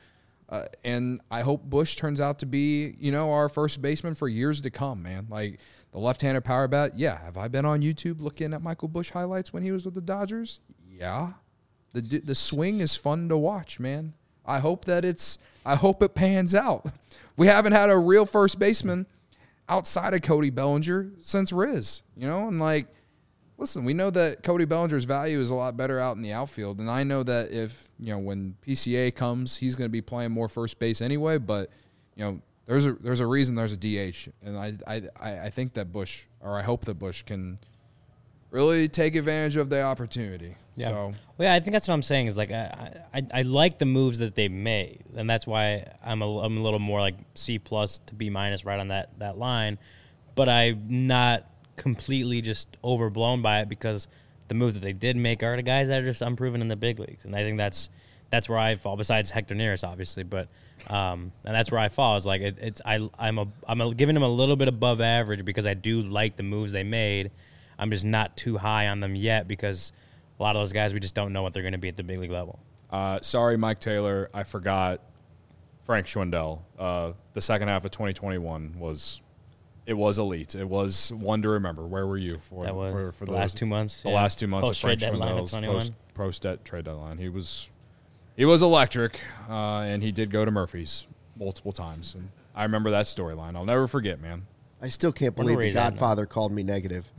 Uh, and I hope Bush turns out to be, you know, our first baseman for years to come, man. Like the left-handed power bat, yeah. Have I been on YouTube looking at Michael Bush highlights when he was with the Dodgers? Yeah. The the swing is fun to watch, man. I hope that it's I hope it pans out. We haven't had a real first baseman outside of Cody Bellinger since Riz, you know? And like, listen, we know that Cody Bellinger's value is a lot better out in the outfield, and I know that if, you know, when P C A comes, he's going to be playing more first base anyway, but, you know, there's a there's a reason there's a D H, and I I I think that Bush, or I hope that Bush can really take advantage of the opportunity. Yeah. So, Well, yeah, I think that's what I'm saying is like I, I I like the moves that they made, and that's why I'm a I'm a little more like C plus to B minus right on that that line, but I'm not completely just overblown by it because the moves that they did make are the guys that are just unproven in the big leagues, and I think that's that's where I fall. Besides Hector Neris, obviously, but um, and that's where I fall. Is like it, it's I I'm a I'm a, giving them a little bit above average because I do like the moves they made. I'm just not too high on them yet because a lot of those guys we just don't know what they're going to be at the big league level. uh, sorry, Mike Taylor, I forgot Frank Schwindel. Uh, the second half of twenty twenty-one was. It was elite. It was one to remember. Where were you for That the, was for, for the those, last two months. The yeah. last two months Post of Frank trade deadline of Schwindel's twenty-one. post, post debt trade deadline. He was he was electric, uh, and he did go to Murphy's multiple times. And I remember that storyline. I'll never forget, man. I still can't Wonder believe where the he's at now. Godfather called me negative.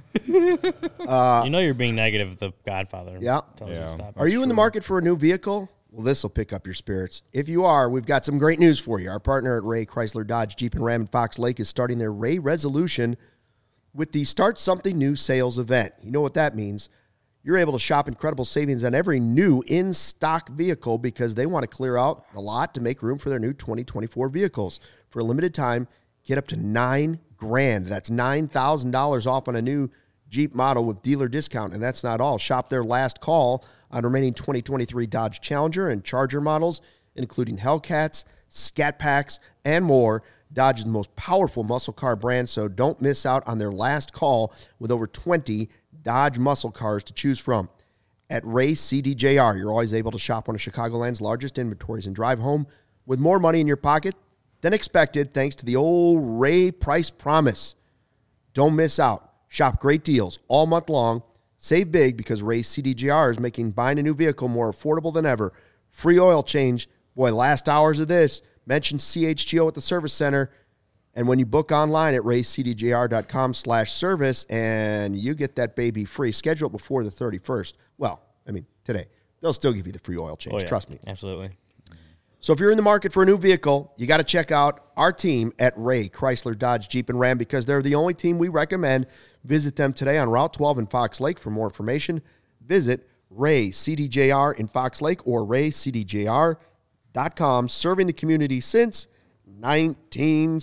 Uh, you know you're being negative. The Godfather. Yeah. Tells you Yeah. to stop. Are you in the market for a new vehicle? Well, this will pick up your spirits. If you are, we've got some great news for you. Our partner at Ray Chrysler Dodge Jeep and Ram in Fox Lake is starting their Ray Resolution with the Start Something New sales event. You know what that means. You're able to shop incredible savings on every new in-stock vehicle because they want to clear out the lot to make room for their new twenty twenty-four vehicles. For a limited time, get up to nine grand. That's nine thousand dollars off on a new Jeep model with dealer discount. And that's not all. Shop their last call on remaining twenty twenty-three Dodge Challenger and Charger models, including Hellcats, Scat Packs, and more. Dodge is the most powerful muscle car brand, so don't miss out on their last call with over twenty Dodge muscle cars to choose from. At Ray C D J R, you're always able to shop one of Chicagoland's largest inventories and drive home with more money in your pocket than expected thanks to the old Ray Price Promise. Don't miss out. Shop great deals all month long. Save big because Ray C D J R is making buying a new vehicle more affordable than ever. Free oil change. Boy, last hours of this. Mention C H G O at the service center. And when you book online at ray c d j r dot com slash service, and you get that baby free. Schedule it before the thirty-first. Well, I mean, today. They'll still give you the free oil change. Oh, yeah. Trust me. Absolutely. So if you're in the market for a new vehicle, you got to check out our team at Ray Chrysler Dodge Jeep and Ram because they're the only team we recommend. Visit them today on Route twelve in Fox Lake for more information. Visit Ray C D J R in Fox Lake or ray c d j r dot com, serving the community since nineteen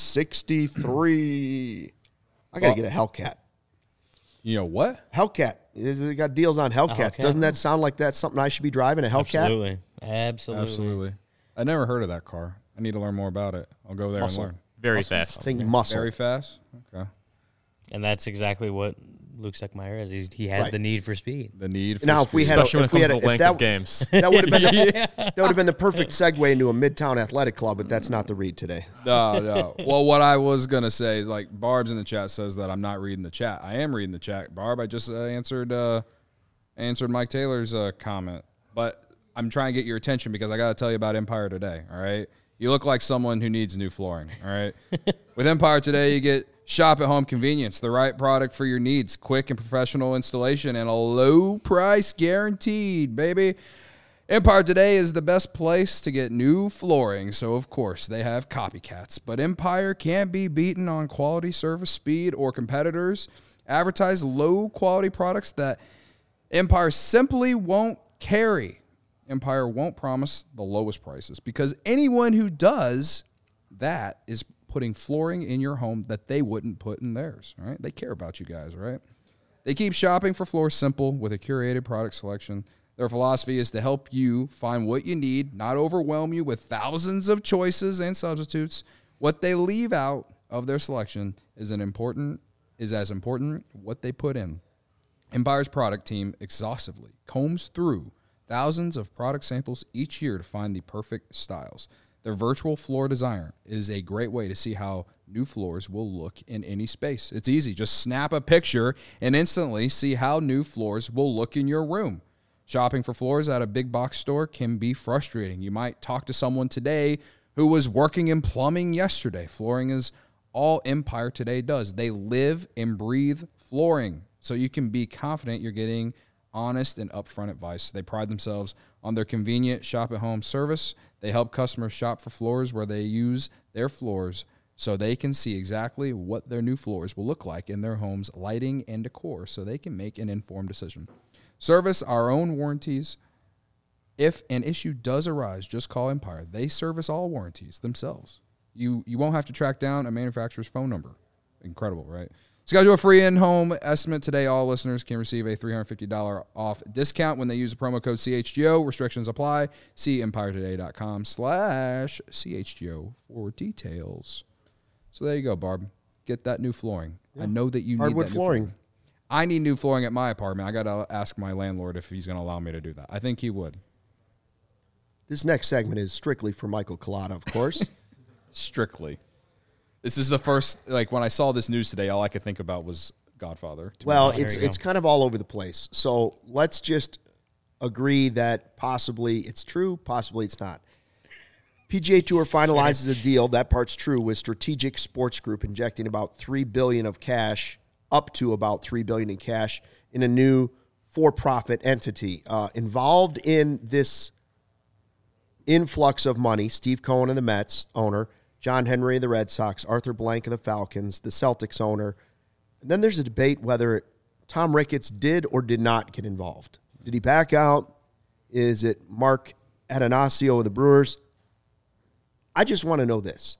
sixty-three. I got to get a Hellcat. You know what? Hellcat. They got deals on Hellcats. Hellcat? Doesn't that sound like that's something I should be driving, a Hellcat? Absolutely. Absolutely. Absolutely. I never heard of that car. I need to learn more about it. I'll go there Muscle. and learn. Very Muscle. fast. Think muscle. Very fast? Okay. And that's exactly what Luke Seckmeyer is. He's, he has Right. the need for speed. The need for Now, if we speed. had a- Especially when if it we comes had to a- the if length that- of games. That would have been the, that would have been the perfect segue into a Midtown Athletic Club, but that's not the read today. No, no. Well, what I was gonna say is like Barb's in the chat says that I'm not reading the chat. I am reading the chat, Barb. I just uh, answered uh, answered Mike Taylor's uh, comment, but I'm trying to get your attention because I got to tell you about Empire Today. All right, you look like someone who needs new flooring. All right, with Empire Today, you get shop at home convenience, the right product for your needs, quick and professional installation, and a low price guaranteed, baby. Empire Today is the best place to get new flooring, so of course they have copycats. But Empire can't be beaten on quality, service, speed, or competitors. Advertise low-quality products that Empire simply won't carry. Empire won't promise the lowest prices because anyone who does that is putting flooring in your home that they wouldn't put in theirs, right? They care about you guys, right? They keep shopping for floors simple with a curated product selection. Their philosophy is to help you find what you need, not overwhelm you with thousands of choices and substitutes. What they leave out of their selection is an important is as important what they put in. Empire's product team exhaustively combs through thousands of product samples each year to find the perfect styles. Their virtual floor designer is a great way to see how new floors will look in any space. It's easy. Just snap a picture and instantly see how new floors will look in your room. Shopping for floors at a big box store can be frustrating. You might talk to someone today who was working in plumbing yesterday. Flooring is all Empire Today does. They live and breathe flooring, so you can be confident you're getting honest and upfront advice. They pride themselves on their convenient shop-at-home service. They help customers shop for floors where they use their floors so they can see exactly what their new floors will look like in their home's lighting and decor so they can make an informed decision. Service our own warranties. If an issue does arise, just call Empire. They service all warranties themselves. You you won't have to track down a manufacturer's phone number. Incredible, right? Schedule a free in-home estimate today. All listeners can receive a three hundred fifty dollars off discount when they use the promo code C H G O. Restrictions apply. See empiretoday.com slash CHGO for details. So there you go, Barb. Get that new flooring. Yeah. I know that you Hardwood need that flooring. New flooring. I need new flooring at my apartment. I got to ask my landlord if he's going to allow me to do that. I think he would. This next segment is strictly for Michael Collada, of course. Strictly. This is the first, like, when I saw this news today, all I could think about was Godfather. Well, it's it's kind of all over the place. So let's just agree that possibly it's true, possibly it's not. P G A Tour finalizes a deal, that part's true, with Strategic Sports Group injecting about three billion dollars of cash, up to about three billion dollars in cash, in a new for-profit entity. Uh, involved in this influx of money, Steve Cohen of the Mets owner, John Henry of the Red Sox, Arthur Blank of the Falcons, the Celtics owner. And then there's a debate whether Tom Ricketts did or did not get involved. Did he back out? Is it Mark Atanasio of the Brewers? I just want to know this.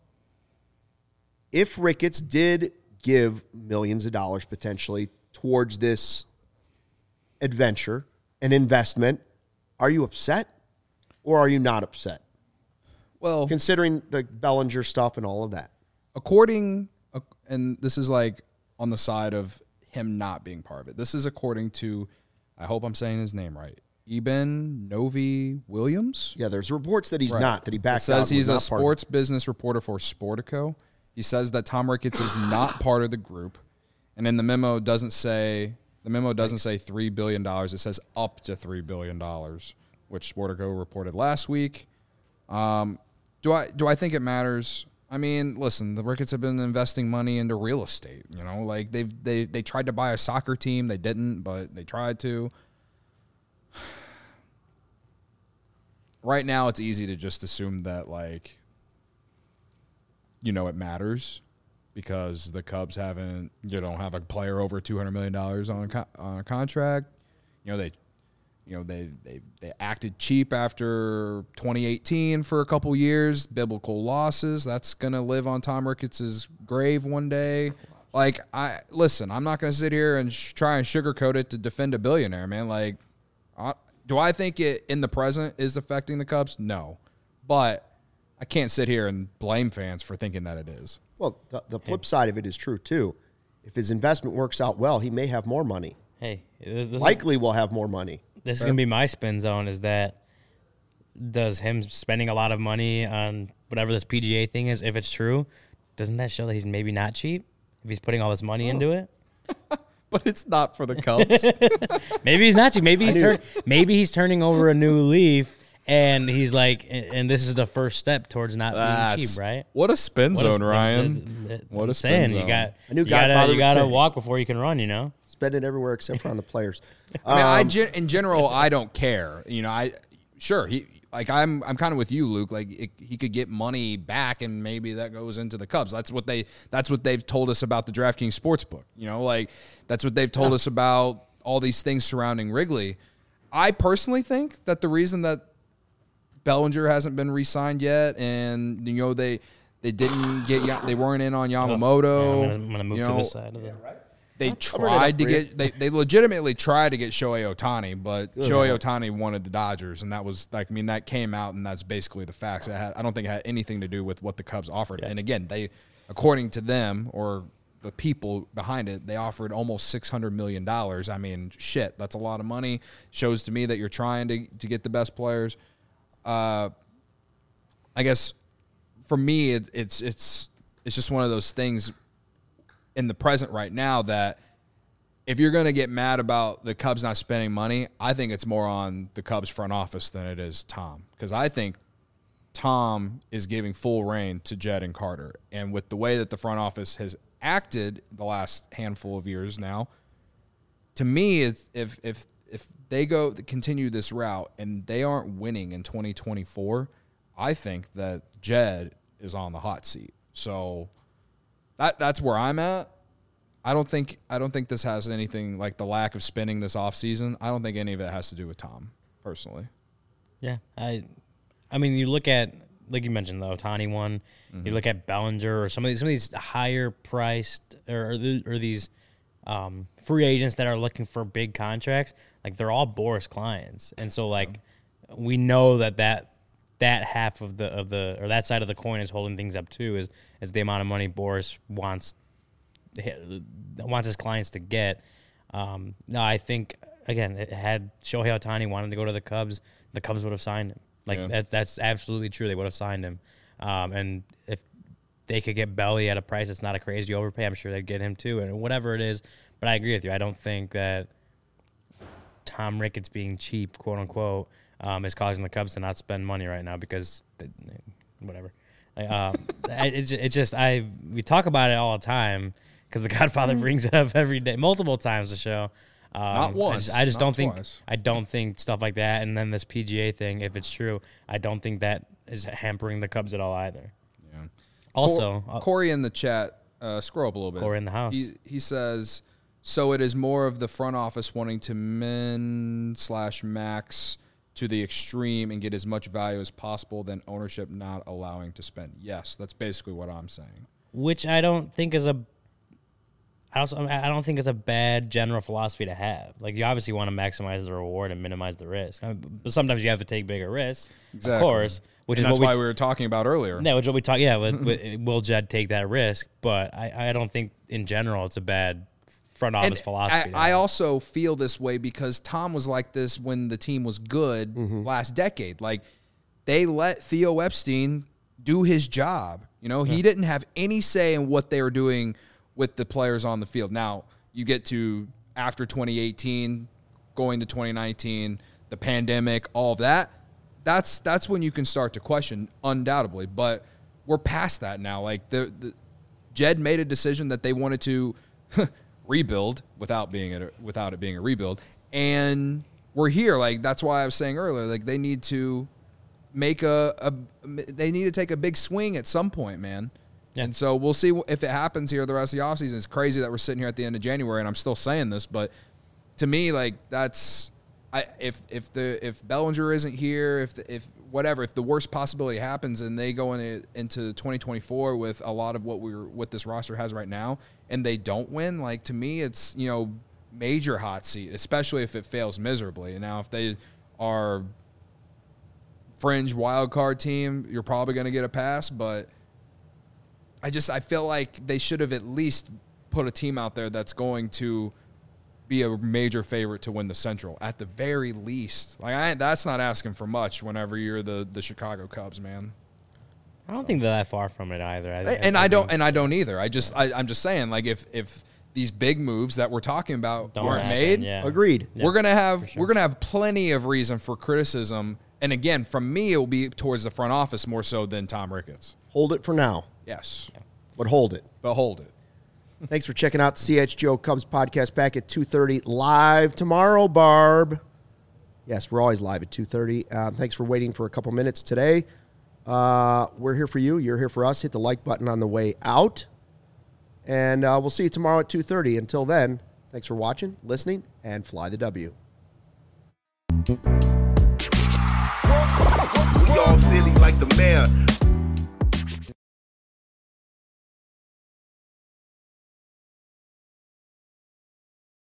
If Ricketts did give millions of dollars potentially towards this adventure, an investment, are you upset or are you not upset? Well, considering the Bellinger stuff and all of that. According, and this is like on the side of him not being part of it. This is according to, I hope I'm saying his name right, Eben Novy-Williams. Yeah, there's reports that he's right. not, that he backed it says out. He's a sports business reporter for Sportico. He says that Tom Ricketts is not part of the group. And in the memo doesn't say, the memo doesn't say three billion dollars. It says up to three billion dollars, which Sportico reported last week. Um, do I do I think it matters? I mean, listen, the Ricketts have been investing money into real estate. You know, like they've they they tried to buy a soccer team, they didn't, but they tried to. Right now, it's easy to just assume that, like, you know, it matters because the Cubs haven't, you know, have a player over two hundred million dollars on a co- on a contract. You know, they. You know, they, they they acted cheap after twenty eighteen for a couple years, biblical losses. That's going to live on Tom Ricketts' grave one day. Like, I listen, I'm not going to sit here and sh- try and sugarcoat it to defend a billionaire, man. Like, I, do I think it in the present is affecting the Cubs? No. But I can't sit here and blame fans for thinking that it is. Well, the, the flip side of it is true, too. If his investment works out well, he may have more money. Hey, this, this Likely will have more money. This is going to be my spin zone, is that does him spending a lot of money on whatever this P G A thing is, if it's true, doesn't that show that he's maybe not cheap if he's putting all this money oh. into it? But it's not for the Cubs. Maybe he's not cheap. Maybe he's, turn, maybe he's turning over a new leaf, and he's like, and this is the first step towards not That's, being cheap, right? What a spin what zone, a, Ryan. That's, that's, what a spin saying. zone. You got, I knew you gotta, you gotta say. walk before you can run, you know? Spend it everywhere except for on the players. I mean, um, I gen- in general, I don't care. You know, I sure he like I'm I'm kind of with you, Luke. Like it, he could get money back, and maybe that goes into the Cubs. That's what they that's what they've told us about the DraftKings Sportsbook. You know, like that's what they've told yeah. us about all these things surrounding Wrigley. I personally think that the reason that Bellinger hasn't been re-signed yet, and you know they they didn't get they weren't in on Yamamoto. Yeah, I'm gonna, I'm gonna move you to know, this side of the. Yeah, right. They tried to get they, they legitimately tried to get Shohei Ohtani, but Good Shohei man. Ohtani wanted the Dodgers, and that was like I mean that came out, and that's basically the facts. It had, I don't think it had anything to do with what the Cubs offered. Yeah. And again, they, according to them or the people behind it, they offered almost six hundred million dollars. I mean, shit, that's a lot of money. Shows to me that you're trying to to get the best players. Uh, I guess for me, it, it's it's it's just one of those things in the present right now that if you're going to get mad about the Cubs not spending money, I think it's more on the Cubs front office than it is Tom, because I think Tom is giving full reign to Jed and Carter, and with the way that the front office has acted the last handful of years now, to me, it's, if if if they go continue this route and they aren't winning in twenty twenty-four, I think that Jed is on the hot seat. So that that's where I'm at. I don't think I don't think this has anything like the lack of spending this offseason. I don't think any of it has to do with Tom, personally. Yeah, I I mean, you look at, like you mentioned, the Ohtani one. Mm-hmm. You look at Bellinger or some of these, some of these higher priced or, or these um, free agents that are looking for big contracts. Like, they're all Boris clients, and so like yeah. we know that that that half of the of the or that side of the coin is holding things up too. Is is the amount of money Boris wants wants his clients to get. Um, no, I think again, it had Shohei Ohtani wanted to go to the Cubs, the Cubs would have signed him. Like yeah. that's that's absolutely true. They would have signed him, um, and if they could get Belly at a price that's not a crazy overpay, I'm sure they'd get him too, and whatever it is. But I agree with you. I don't think that Tom Ricketts being cheap, quote unquote, um, is causing the Cubs to not spend money right now because they, whatever. Like, um, it's it's just I we talk about it all the time because the Godfather brings it up every day, multiple times. The show. Um, not once. I just, I just not don't think twice. I don't think stuff like that, and then this P G A thing, if it's true, I don't think that is hampering the Cubs at all either. Yeah. Also, Cor- Corey in the chat, uh, scroll up a little bit. Corey in the house. He, he says, so it is more of the front office wanting to min slash max to the extreme and get as much value as possible than ownership not allowing to spend. Yes, that's basically what I'm saying. Which I don't think is a I also I don't think it's a bad general philosophy to have. Like, you obviously want to maximize the reward and minimize the risk, I mean, but sometimes you have to take bigger risks, exactly. of course. Which and is that's what why we, we were talking about earlier. Yeah, which is what we talk. Yeah, with, with, will Jed take that risk? But I, I don't think in general it's a bad front office and philosophy. I, I also feel this way because Tom was like this when the team was good mm-hmm. last decade. Like, they let Theo Epstein do his job. You know, yeah. he didn't have any say in what they were doing with the players on the field. Now, you get to after twenty eighteen, going to twenty nineteen, the pandemic, all of that. That's that's when you can start to question, undoubtedly. But we're past that now. Like, the, the Jed made a decision that they wanted to rebuild without being a, without it being a rebuild, and we're here. Like, that's why I was saying earlier. Like, they need to make a, a they need to take a big swing at some point, man. Yeah. And so we'll see if it happens here the rest of the offseason. It's crazy that we're sitting here at the end of January and I'm still saying this, but to me, like, that's I if if the if Bellinger isn't here, if the, if whatever, if the worst possibility happens and they go into into twenty twenty-four with a lot of what we're what this roster has right now and they don't win, like, to me it's, you know, major hot seat, especially if it fails miserably. And now if they are fringe wild card team, you're probably going to get a pass, but I just I feel like they should have at least put a team out there that's going to be a major favorite to win the Central at the very least. Like, I that's not asking for much whenever you're the, the Chicago Cubs, man. I don't think they're that far from it either. I, and I, I don't and I don't either. I just I, I'm just saying, like, if if these big moves that we're talking about don't aren't happen, made, yeah. agreed. Yeah, we're gonna have sure. we're gonna have plenty of reason for criticism. And again, from me, it will be towards the front office more so than Tom Ricketts. Hold it for now. Yes. Yeah. But hold it. But hold it. Thanks for checking out the C H G O Cubs podcast back at two thirty live tomorrow, Barb. Yes, we're always live at two thirty. Uh, thanks for waiting for a couple minutes today. Uh, we're here for you. You're here for us. Hit the like button on the way out. And uh, we'll see you tomorrow at two thirty. Until then, thanks for watching, listening, and fly the W. We all silly like the mayor.